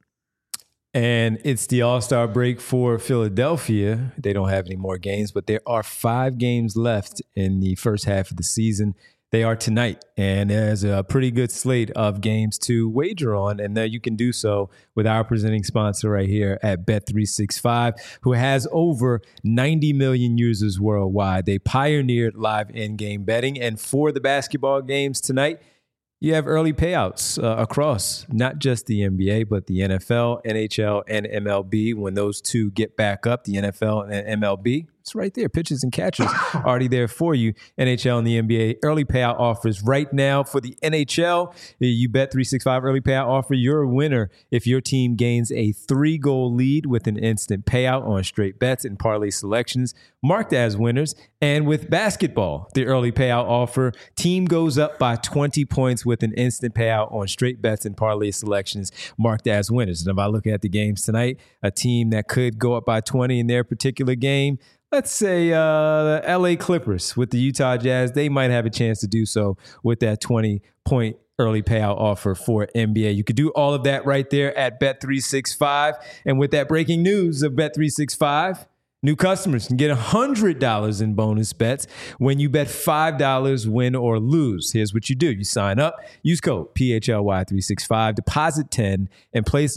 And it's the All-Star break for Philadelphia. They don't have any more games, but there are 5 games left in the first half of the season. They are tonight, and there's a pretty good slate of games to wager on, and you can do so with our presenting sponsor right here at Bet365, who has over 90 million users worldwide. They pioneered live in-game betting, and for the basketball games tonight, You have early payouts across not just the NBA, but the NFL, NHL, and MLB. When those two get back up, the NFL and MLB, it's right there. Pitchers and catchers already there for you. NHL and the NBA early payout offers right now for the NHL. You bet 365 early payout offer. You're a winner if your team gains a 3-goal lead with an instant payout on straight bets and parlay selections marked as winners. And with basketball, the early payout offer, team goes up by 20 points with an instant payout on straight bets and parlay selections marked as winners. And if I look at the games tonight, a team that could go up by 20 in their particular game, let's say the LA Clippers with the Utah Jazz, they might have a chance to do so with that 20-point early payout offer for NBA. You could do all of that right there at Bet365. And with that breaking news of Bet365, new customers can get $100 in bonus bets when you bet $5 win or lose. Here's what you do. You sign up, use code PHLY365, deposit 10, and place a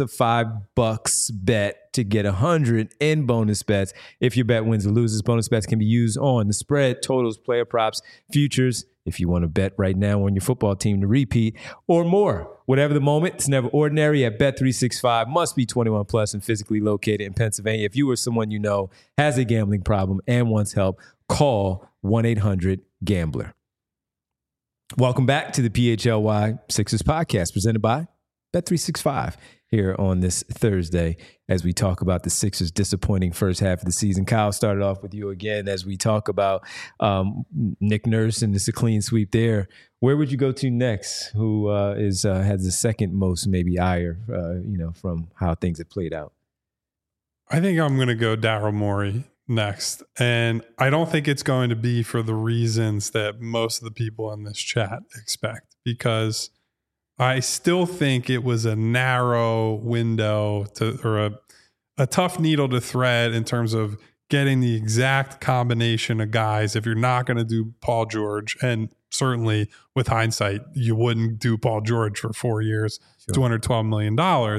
$5 bet to get 100 in bonus bets. If your bet wins or loses, bonus bets can be used on the spread, totals, player props, futures. If you want to bet right now on your football team to repeat or more. Whatever the moment, it's never ordinary at Bet365. Must be 21 plus and physically located in Pennsylvania. If you or someone you know has a gambling problem and wants help, call 1-800-GAMBLER. Welcome back to the PHLY Sixers podcast presented by Bet365 here on this Thursday as we talk about the Sixers' disappointing first half of the season. Kyle, started off with you again as we talk about Nick Nurse, and it's a clean sweep there. Where would you go to next? Who has the second most maybe ire, from how things have played out? I think I'm going to go Daryl Morey next. And I don't think it's going to be for the reasons that most of the people in this chat expect, because I still think it was a narrow window or a tough needle to thread in terms of getting the exact combination of guys. If you're not going to do Paul George, and certainly with hindsight, you wouldn't do Paul George for 4 years, sure. $212 million.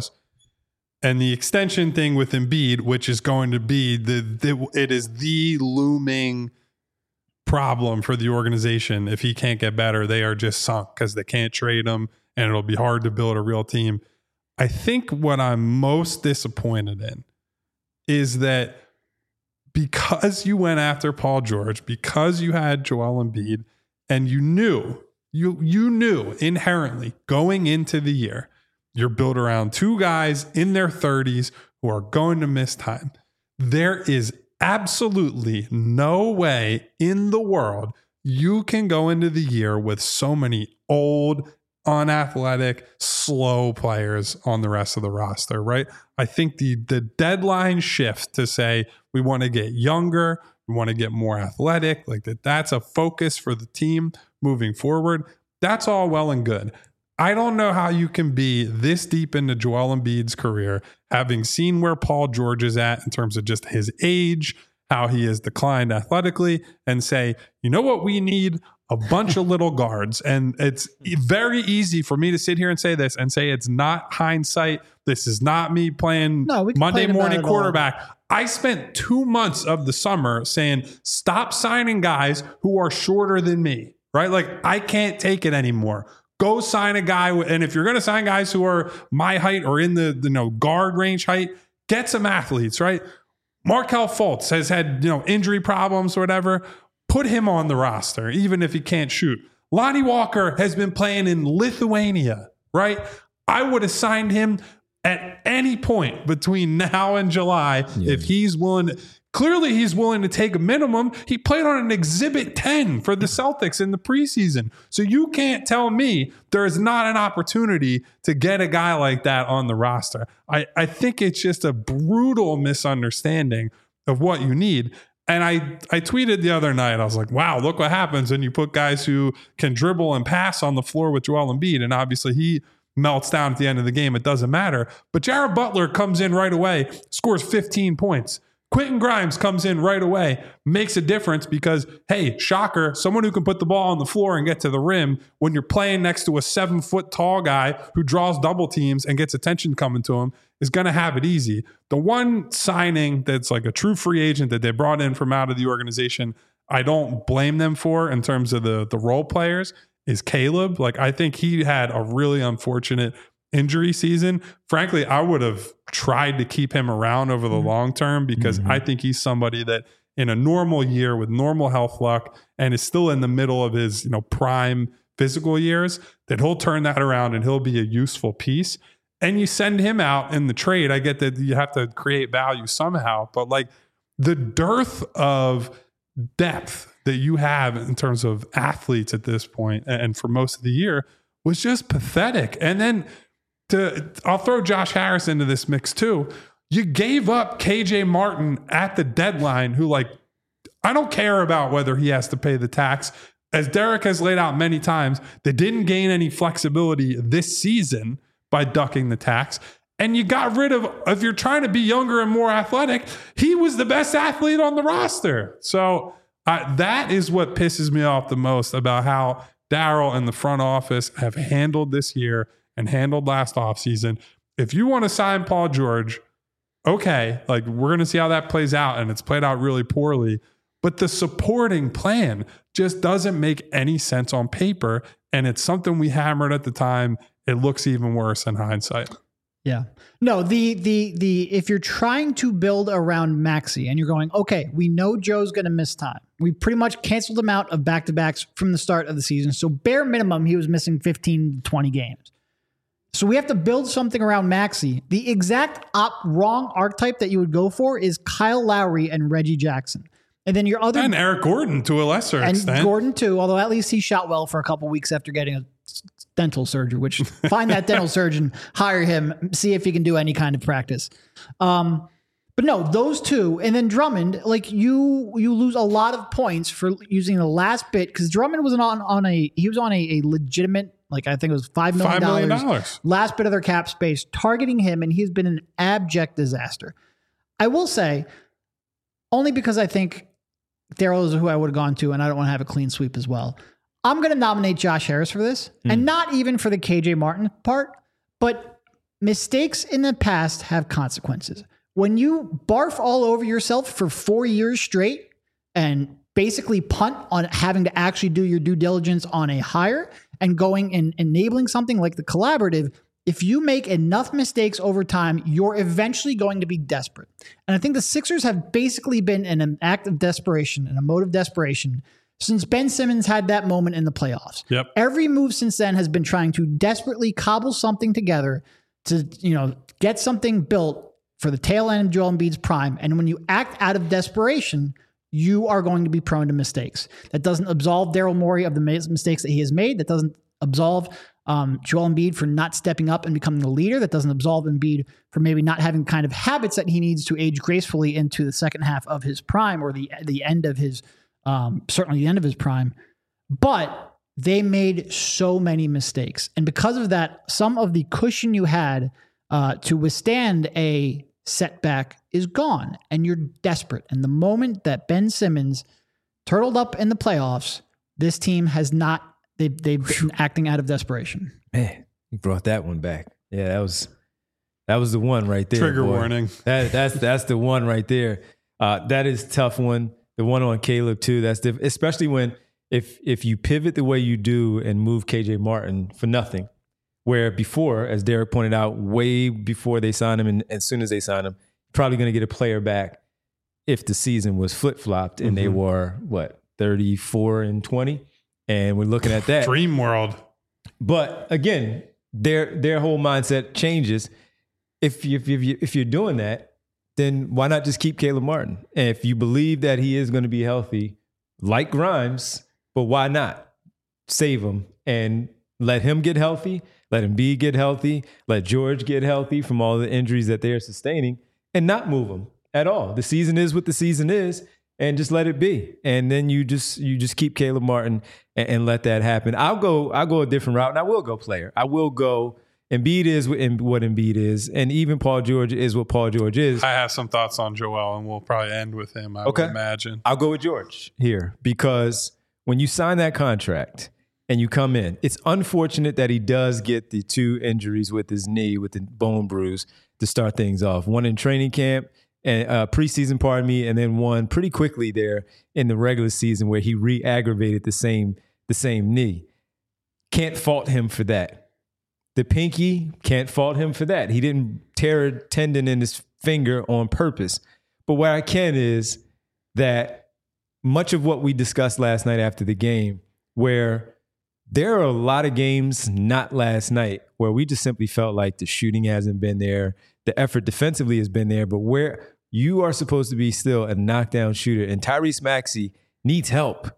And the extension thing with Embiid, which is going to be it is the looming problem for the organization. If he can't get better, they are just sunk because they can't trade him. And it'll be hard to build a real team. I think what I'm most disappointed in is that because you went after Paul George, because you had Joel Embiid, and you knew inherently going into the year, you're built around two guys in their 30s who are going to miss time. There is absolutely no way in the world you can go into the year with so many old, unathletic, slow players on the rest of the roster, right? I think the deadline shift to say we want to get younger, we want to get more athletic, like that's a focus for the team moving forward. That's all well and good. I don't know how you can be this deep into Joel Embiid's career, having seen where Paul George is at in terms of just his age, how he has declined athletically, and say, you know what we need? A bunch of little guards. And it's very easy for me to sit here and say this and say it's not hindsight. This is not me playing Monday morning quarterback. I spent 2 months of the summer saying, stop signing guys who are shorter than me, right? Like, I can't take it anymore. Go sign a guy. And if you're going to sign guys who are my height or in the guard range height, get some athletes, right? Markelle Fultz has had, injury problems or whatever. Put him on the roster, even if he can't shoot. Lonnie Walker has been playing in Lithuania, right? I would have signed him at any point between now and July if he's willing. Clearly, he's willing to take a minimum. He played on an Exhibit 10 for the Celtics in the preseason. So you can't tell me there is not an opportunity to get a guy like that on the roster. I think it's just a brutal misunderstanding of what you need. And I tweeted the other night, I was like, wow, look what happens when you put guys who can dribble and pass on the floor with Joel Embiid. And obviously he melts down at the end of the game. It doesn't matter. But Jared Butler comes in right away, scores 15 points. Quentin Grimes comes in right away, makes a difference because, hey, shocker, someone who can put the ball on the floor and get to the rim when you're playing next to a 7-foot tall guy who draws double teams and gets attention coming to him is going to have it easy. The one signing that's like a true free agent that they brought in from out of the organization, I don't blame them for in terms of the role players, is Caleb. Like, I think he had a really unfortunate injury season. Frankly, I would have tried to keep him around over the long term because I think he's somebody that in a normal year with normal health luck and is still in the middle of his, prime physical years, that he'll turn that around and he'll be a useful piece. And you send him out in the trade. I get that you have to create value somehow, but like the dearth of depth that you have in terms of athletes at this point and for most of the year was just pathetic. And then I'll throw Josh Harris into this mix too. You gave up KJ Martin at the deadline, who, like, I don't care about whether he has to pay the tax. As Derek has laid out many times, they didn't gain any flexibility this season by ducking the tax. And you got rid of, if you're trying to be younger and more athletic, he was the best athlete on the roster. So that is what pisses me off the most about how Daryl and the front office have handled this year and handled last offseason. If you want to sign Paul George, okay, like, we're going to see how that plays out, and it's played out really poorly. But the supporting plan just doesn't make any sense on paper, and it's something we hammered at the time. It looks even worse in hindsight. Yeah. No, the if you're trying to build around Maxey and you're going, okay, we know Joe's going to miss time. We pretty much canceled him out of back-to-backs from the start of the season. So bare minimum, he was missing 15 to 20 games. So we have to build something around Maxey. The exact wrong archetype that you would go for is Kyle Lowry and Reggie Jackson. And then your other... And Eric Gordon to a lesser extent. And Gordon too, although at least he shot well for a couple weeks after getting a dental surgery, which find that dental surgeon, hire him, see if he can do any kind of practice. But no, those two, and then Drummond, like you lose a lot of points for using the last bit, because Drummond was on a legitimate, like, I think it was $5 million last bit of their cap space targeting him, and he's been an abject disaster. I will say, only because I think Daryl is who I would have gone to, and I don't want to have a clean sweep as well. I'm going to nominate Josh Harris for this, and not even for the KJ Martin part, but mistakes in the past have consequences. When you barf all over yourself for 4 years straight and basically punt on having to actually do your due diligence on a hire and going and enabling something like the collaborative, if you make enough mistakes over time, you're eventually going to be desperate. And I think the Sixers have basically been in an act of desperation, in a mode of desperation, since Ben Simmons had that moment in the playoffs. Yep. Every move since then has been trying to desperately cobble something together to, get something built for the tail end of Joel Embiid's prime. And when you act out of desperation, you are going to be prone to mistakes. That doesn't absolve Daryl Morey of the mistakes that he has made. That doesn't absolve Joel Embiid for not stepping up and becoming the leader. That doesn't absolve Embiid for maybe not having kind of habits that he needs to age gracefully into the second half of his prime, or the end of his, certainly the end of his prime. But they made so many mistakes. And because of that, some of the cushion you had to withstand a setback is gone, and you're desperate. And the moment that Ben Simmons turtled up in the playoffs, this team has not, they've been acting out of desperation. Man, you brought that one back. Yeah, that was the one right there. Trigger boy. warning. That's the one right there. That is a tough one. The one on Caleb too. That's especially when if you pivot the way you do and move KJ Martin for nothing, where before, as Derek pointed out, way before they signed him, and as soon as they signed him, probably going to get a player back if the season was flip-flopped and they were 34-20, and we're looking at that dream world. But again, their whole mindset changes. If you're doing that, then why not just keep Caleb Martin? And if you believe that he is going to be healthy, like Grimes, but why not save him and let him get healthy? Let Embiid get healthy. Let George get healthy from all the injuries that they're sustaining, and not move them at all. The season is what the season is, and just let it be. And then you just keep Caleb Martin and let that happen. I'll go a different route, and I will go player. I will go. Embiid is what Embiid is, and even Paul George is what Paul George is. I have some thoughts on Joel, and we'll probably end with him, I would imagine. I'll go with George here, because when you sign that contract and you come in, it's unfortunate that he does get the 2 injuries with his knee, with the bone bruise, to start things off. One in training camp, and preseason, and then one pretty quickly there in the regular season where he re-aggravated the same knee. can't fault him for that. The pinky, can't fault him for that. He didn't tear a tendon in his finger on purpose. But what I can is that much of what we discussed last night after the game, where there are a lot of games, not last night, where we just simply felt like the shooting hasn't been there. The effort defensively has been there, but where you are supposed to be still a knockdown shooter, and Tyrese Maxey needs help,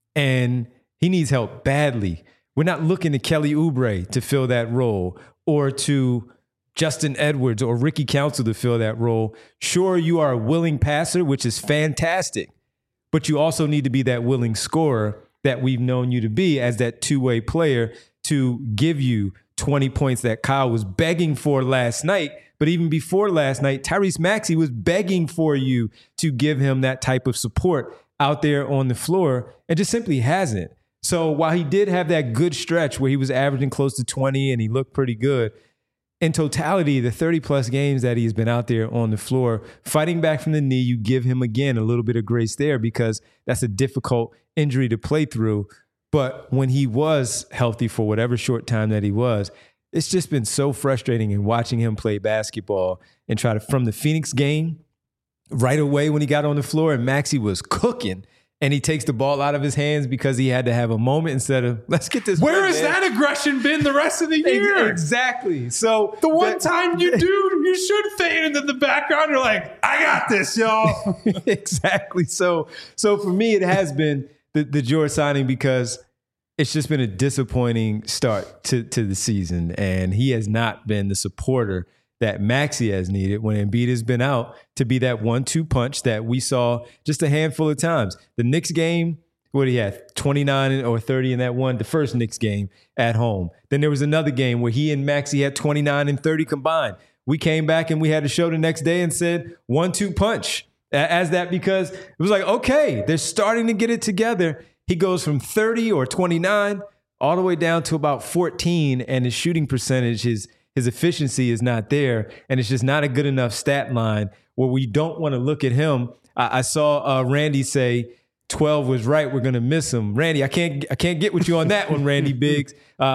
and he needs help badly. We're not looking to Kelly Oubre to fill that role, or to Justin Edwards or Ricky Council to fill that role. Sure, you are a willing passer, which is fantastic, but you also need to be that willing scorer that we've known you to be as that two-way player to give you 20 points that Kyle was begging for last night. But even before last night, Tyrese Maxey was begging for you to give him that type of support out there on the floor, and just simply hasn't. So while he did have that good stretch where he was averaging close to 20 and he looked pretty good, in totality, the 30-plus games that he's been out there on the floor, fighting back from the knee, you give him, again, a little bit of grace there because that's a difficult injury to play through. But when he was healthy for whatever short time that he was, it's just been so frustrating in watching him play basketball and try to, from the Phoenix game, right away when he got on the floor and Maxey was cooking, and he takes the ball out of his hands because he had to have a moment instead of, let's get this. Where has that aggression been the rest of the year? Exactly. So the one time you should fade into the background. You're like, I got this, y'all. Exactly. So for me, it has been the George signing because it's just been a disappointing start to the season, and he has not been the supporter that Maxey has needed when Embiid has been out to be that 1-2 punch that we saw just a handful of times. The Knicks game, what he had, 29 or 30 in that one, the first Knicks game at home. Then there was another game where he and Maxey had 29 and 30 combined. We came back and we had a show the next day and said 1-2 punch as that because it was like, okay, they're starting to get it together. He goes from 30 or 29 all the way down to about 14, and his shooting percentage, his efficiency is not there, and it's just not a good enough stat line where we don't want to look at him. I saw Randy say 12 was right. We're going to miss him. Randy, I can't get with you on that one, Randy Briggs.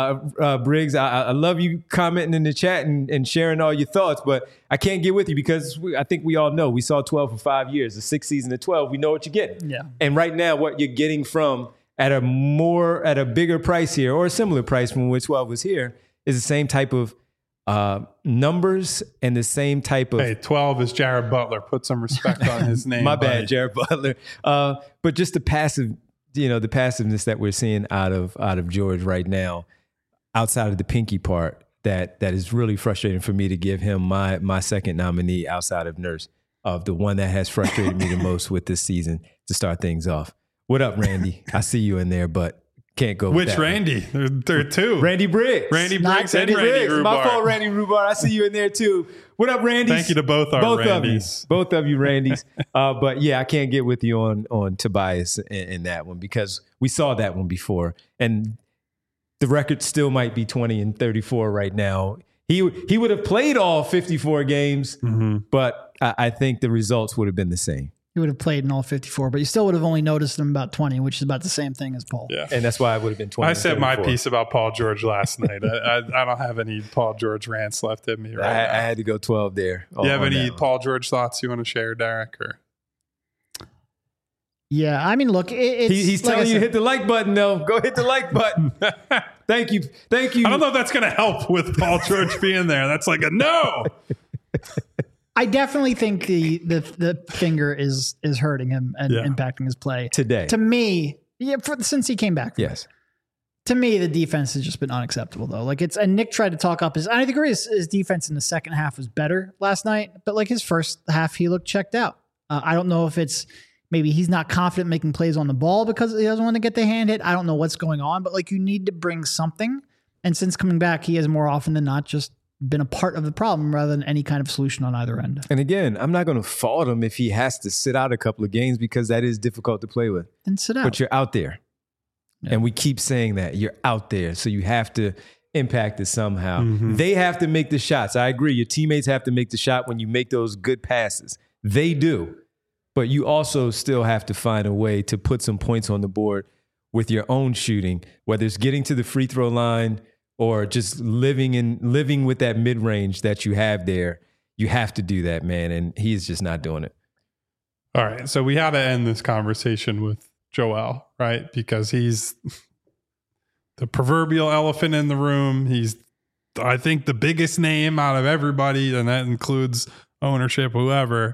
I love you commenting in the chat and sharing all your thoughts, but I can't get with you because I think we all know we saw 12 for 5 years. The sixth season at 12, we know what you're getting. Yeah. And right now, what you're getting from at a bigger price here or a similar price from when 12 was here is the same type of numbers and the same type of. Hey, 12 is Jared Butler. Put some respect on his name. My bad, Jared Butler. But just the passiveness that we're seeing out of George right now, outside of the pinky part, that is really frustrating for me to give him my second nominee outside of Nurse, of the one that has frustrated me the most with this season to start things off. What up, Randy? I see you in there, but. Can't go with Which that Randy? There are two. Randy Briggs. Randy Briggs and Randy Rubar. My fault, Randy Rubar. I see you in there too. What up, Randy? Thank you to both our Randys. Both of you Randys. But yeah, I can't get with you on Tobias in that one because we saw that one before. And the record still might be 20 and 34 right now. He would have played all 54 games, but I think the results would have been the same. He would have played in all 54, but you still would have only noticed him about 20, which is about the same thing as Paul. Yeah. And that's why it would have been 20. I said my piece about Paul George last night. I don't have any Paul George rants left in me right now. I had to go 12 there. Do you have any Paul George thoughts you want to share, Derek? Or? Yeah, I mean, look, he's telling you to hit the like button, though. Go hit the like button. Thank you. I don't know if that's going to help with Paul George being there. That's like a no. I definitely think the finger is hurting him and impacting his play today. To me, since he came back. Yes. To me, the defense has just been unacceptable, though. And Nick tried to talk up I agree his defense in the second half was better last night, but like his first half, he looked checked out. I don't know if it's maybe he's not confident making plays on the ball because he doesn't want to get the hand hit. I don't know what's going on, but like you need to bring something. And since coming back, he has more often than not just been a part of the problem rather than any kind of solution on either end. And again, I'm not going to fault him if he has to sit out a couple of games because that is difficult to play with. Then sit out. But you're out there. Yeah. And we keep saying that. You're out there. So you have to impact it somehow. Mm-hmm. They have to make the shots. I agree. Your teammates have to make the shot when you make those good passes. They do. But you also still have to find a way to put some points on the board with your own shooting, whether it's getting to the free throw line or just living with that mid-range that you have there. You have to do that, man. And he's just not doing it. All right. So we had to end this conversation with Joel, right? Because he's the proverbial elephant in the room. He's, I think, the biggest name out of everybody, and that includes ownership, whoever.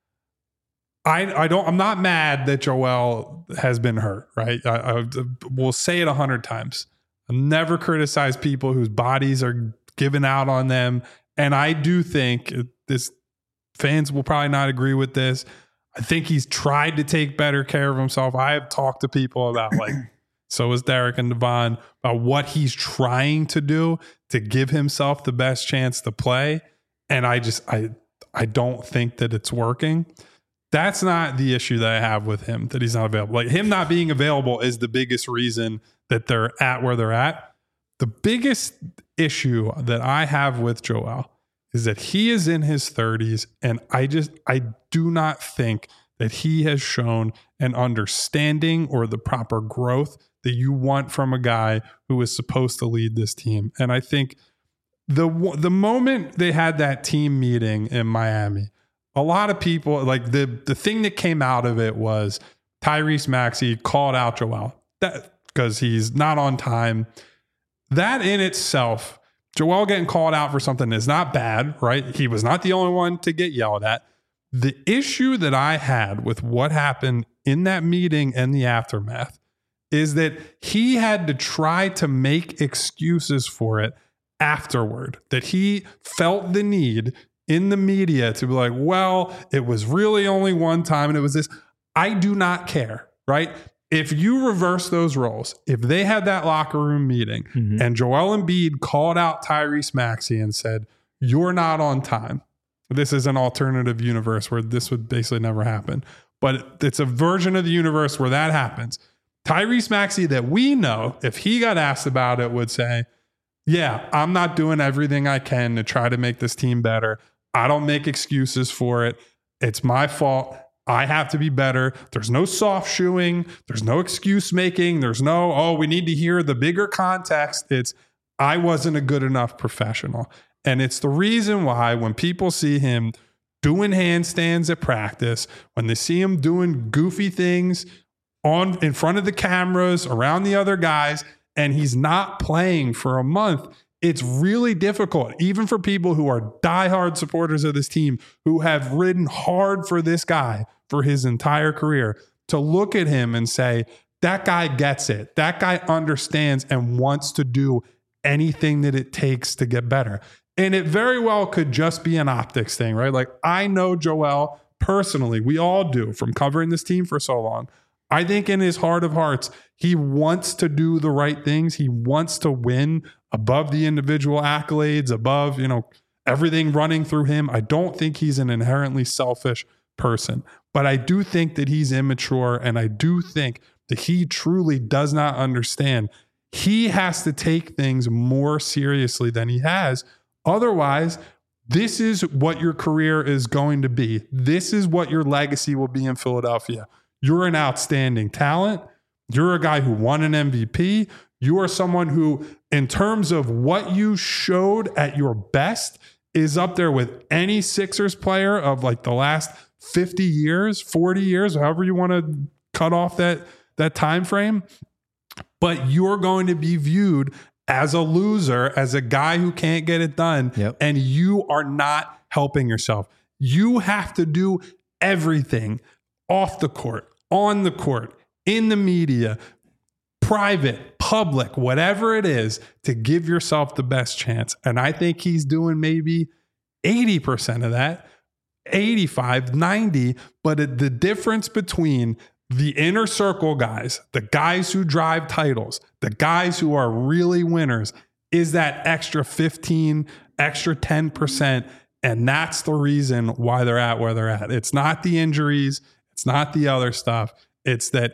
I'm not mad that Joel has been hurt, right? I will say it 100 times. I've never criticized people whose bodies are giving out on them. And I do think this, fans will probably not agree with this. I think he's tried to take better care of himself. I have talked to people about, like, so is Derek and Devon, about what he's trying to do to give himself the best chance to play. And I don't think that it's working. That's not the issue that I have with him, that he's not available. Like, him not being available is the biggest reason that they're at where they're at. The biggest issue that I have with Joel is that he is in his 30s, and I do not think that he has shown an understanding or the proper growth that you want from a guy who is supposed to lead this team. And I think the moment they had that team meeting in Miami, a lot of people, like, the thing that came out of it was Tyrese Maxey called out Joel because he's not on time. That in itself, Joel getting called out for something is not bad, right? He was not the only one to get yelled at. The issue that I had with what happened in that meeting and the aftermath is that he had to try to make excuses for it afterward, that he felt the need in the media to be like, well, it was really only one time and it was this. I do not care, right? If you reverse those roles, if they had that locker room meeting and Joel Embiid called out Tyrese Maxey and said, you're not on time. This is an alternative universe where this would basically never happen. But it's a version of the universe where that happens. Tyrese Maxey that we know, if he got asked about it, would say, yeah, I'm not doing everything I can to try to make this team better. I don't make excuses for it. It's my fault. I have to be better. There's no soft shoeing. There's no excuse making. There's no, oh, we need to hear the bigger context. It's, I wasn't a good enough professional. And it's the reason why when people see him doing handstands at practice, when they see him doing goofy things in front of the cameras, around the other guys, and he's not playing for a month, it's really difficult, even for people who are diehard supporters of this team, who have ridden hard for this guy for his entire career, to look at him and say, that guy gets it. That guy understands and wants to do anything that it takes to get better. And it very well could just be an optics thing, right? Like, I know Joel personally. We all do, from covering this team for so long. I think in his heart of hearts, he wants to do the right things. He wants to win above the individual accolades, above, everything running through him. I don't think he's an inherently selfish person, but I do think that he's immature, and I do think that he truly does not understand. He has to take things more seriously than he has. Otherwise, this is what your career is going to be. This is what your legacy will be in Philadelphia. You're an outstanding talent. You're a guy who won an MVP. You are someone who, in terms of what you showed at your best, is up there with any Sixers player of, like, the last 50 years, 40 years, however you want to cut off that time frame. But you're going to be viewed as a loser, as a guy who can't get it done. Yep. And you are not helping yourself. You have to do everything off the court, on the court, in the media, private, public, whatever it is, to give yourself the best chance. And I think he's doing maybe 80% of that, 85, 90. But the difference between the inner circle guys, the guys who drive titles, the guys who are really winners, is that extra 15, extra 10%. And that's the reason why they're at where they're at. It's not the injuries. It's not the other stuff. It's that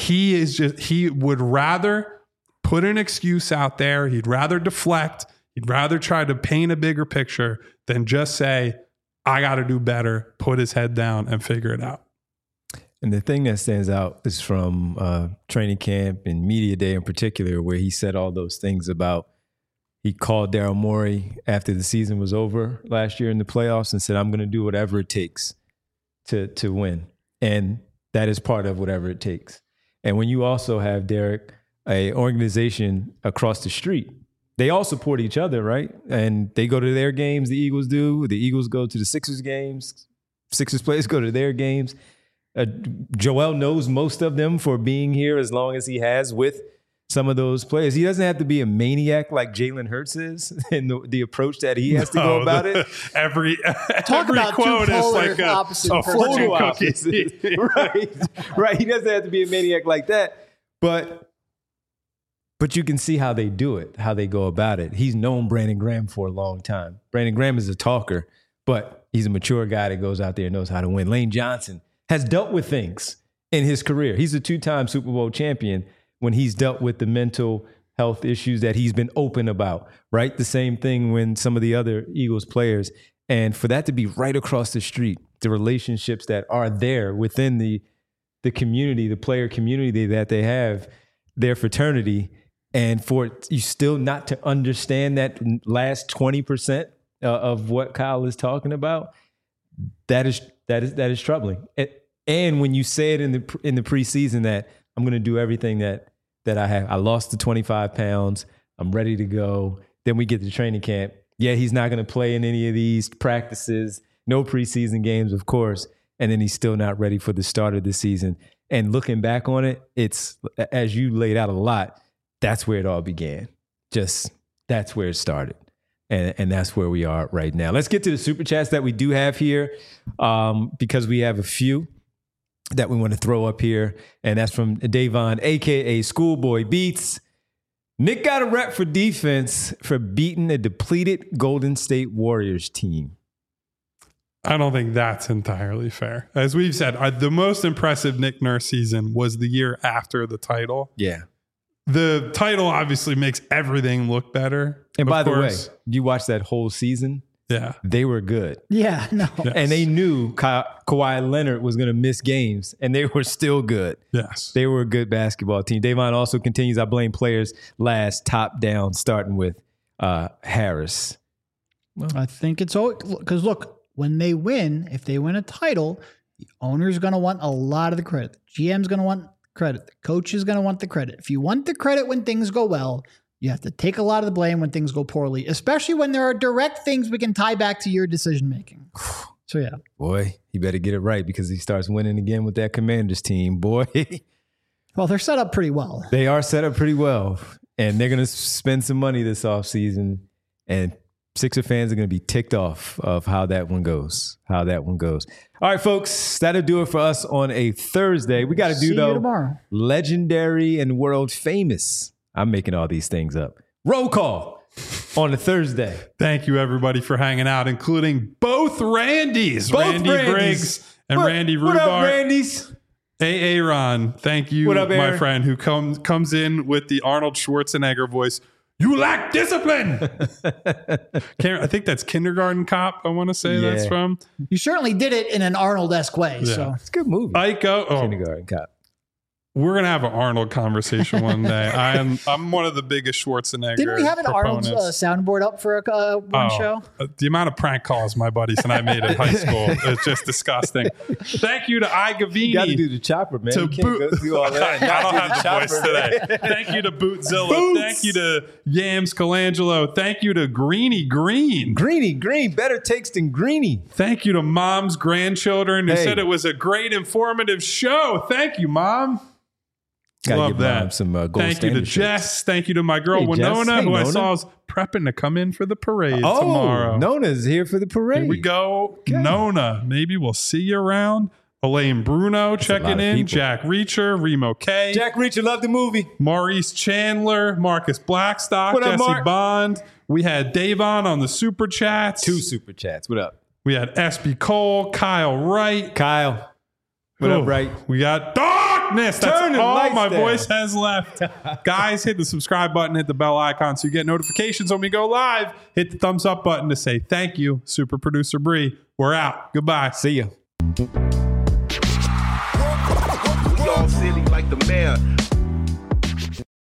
he would rather put an excuse out there. He'd rather deflect. He'd rather try to paint a bigger picture than just say, I got to do better, put his head down and figure it out. And the thing that stands out is from training camp and media day in particular, where he said all those things about, he called Daryl Morey after the season was over last year in the playoffs and said, I'm going to do whatever it takes to win. And that is part of whatever it takes. And when you also have, Derek, an organization across the street, they all support each other, right? And they go to their games, the Eagles do. The Eagles go to the Sixers games. Sixers players go to their games. Joel knows most of them for being here as long as he has with some of those players. He doesn't have to be a maniac like Jalen Hurts is in the approach that he has to go about it. Every about quote is like a fortune cookie. Right. He doesn't have to be a maniac like that. But you can see how they do it, how they go about it. He's known Brandon Graham for a long time. Brandon Graham is a talker, but he's a mature guy that goes out there and knows how to win. Lane Johnson has dealt with things in his career. He's a 2-time Super Bowl champion when he's dealt with the mental health issues that he's been open about, right? The same thing when some of the other Eagles players. And for that to be right across the street, the relationships that are there within the community, the player community that they have, their fraternity, and for you still not to understand that last 20% of what Kyle is talking about, that is troubling. And when you say it in the preseason that I'm going to do everything that I have. I lost the 25 pounds. I'm ready to go. Then we get to training camp. Yeah, he's not going to play in any of these practices. No preseason games, of course. And then he's still not ready for the start of the season. And looking back on it, it's, as you laid out a lot, that's where it all began. Just that's where it started. And that's where we are right now. Let's get to the Super Chats that we do have here because we have a few that we want to throw up here. And that's from Davon, a.k.a. Schoolboy Beats. Nick got a rep for defense for beating a depleted Golden State Warriors team. I don't think that's entirely fair. As we've said, the most impressive Nick Nurse season was the year after the title. Yeah. The title obviously makes everything look better. And by the way, you watched that whole season? Yeah. They were good. Yeah, no. Yes. And they knew Kawhi Leonard was going to miss games, and they were still good. Yes. They were a good basketball team. Davon also continues, I blame players last, top down, starting with Harris. Well, I think it's all because look, when they win, if they win a title, the owner's going to want a lot of the credit. The GM's going to want credit. The coach is going to want the credit. If you want the credit when things go well, you have to take a lot of the blame when things go poorly, especially when there are direct things we can tie back to your decision-making. So, yeah. Boy, he better get it right because he starts winning again with that Commanders team. Boy. Well, they're set up pretty well. They are set up pretty well. And they're going to spend some money this offseason. And Sixer fans are going to be ticked off of how that one goes. All right, folks, that'll do it for us on a Thursday. We got to do, though, tomorrow. Legendary and world famous. I'm making all these things up. Roll call on a Thursday. Thank you, everybody, for hanging out, including both Randys. Randy Briggs and Randy Rhubarb. What up, Randys? Aaron, thank you, up, my friend, who comes in with the Arnold Schwarzenegger voice. You lack discipline. I think that's Kindergarten Cop. I want to say that's from. You certainly did it in an Arnold-esque way. Yeah. So it's a good movie. Kindergarten Cop. We're gonna have an Arnold conversation one day. I'm one of the biggest Schwarzenegger. Didn't we have an Arnold soundboard up for one show? The amount of prank calls my buddies and I made in high school is just disgusting. Thank you to I Gavini. You got to do the chopper, man. You can't go through all that. I don't have the voice today. Thank you to Bootzilla. Thank you to Yams Colangelo. Thank you to Greeny Green. Greeny Green, better takes than Greeny. Thank you to Mom's grandchildren who said it was a great informative show. Thank you, Mom. Love that. Thank you to Jess. Thank you to my girl Winona, who I saw is prepping to come in for the parade tomorrow. Nona's here for the parade. Here we go. Okay. Nona, maybe we'll see you around. Elaine Bruno checking in. Jack Reacher, Remo K. Jack Reacher, love the movie. Maurice Chandler, Marcus Blackstock, Jesse Bond. We had Davon on the Super Chats. 2 Super Chats. What up? We had SB Cole, Kyle Wright. Kyle. What up, Wright? We got Darkness. That's all my voice has left. Guys, hit the subscribe button, hit the bell icon so you get notifications when we go live. Hit the thumbs up button to say thank you. Super producer Bree. We're out. Goodbye. See ya. city like the mayor.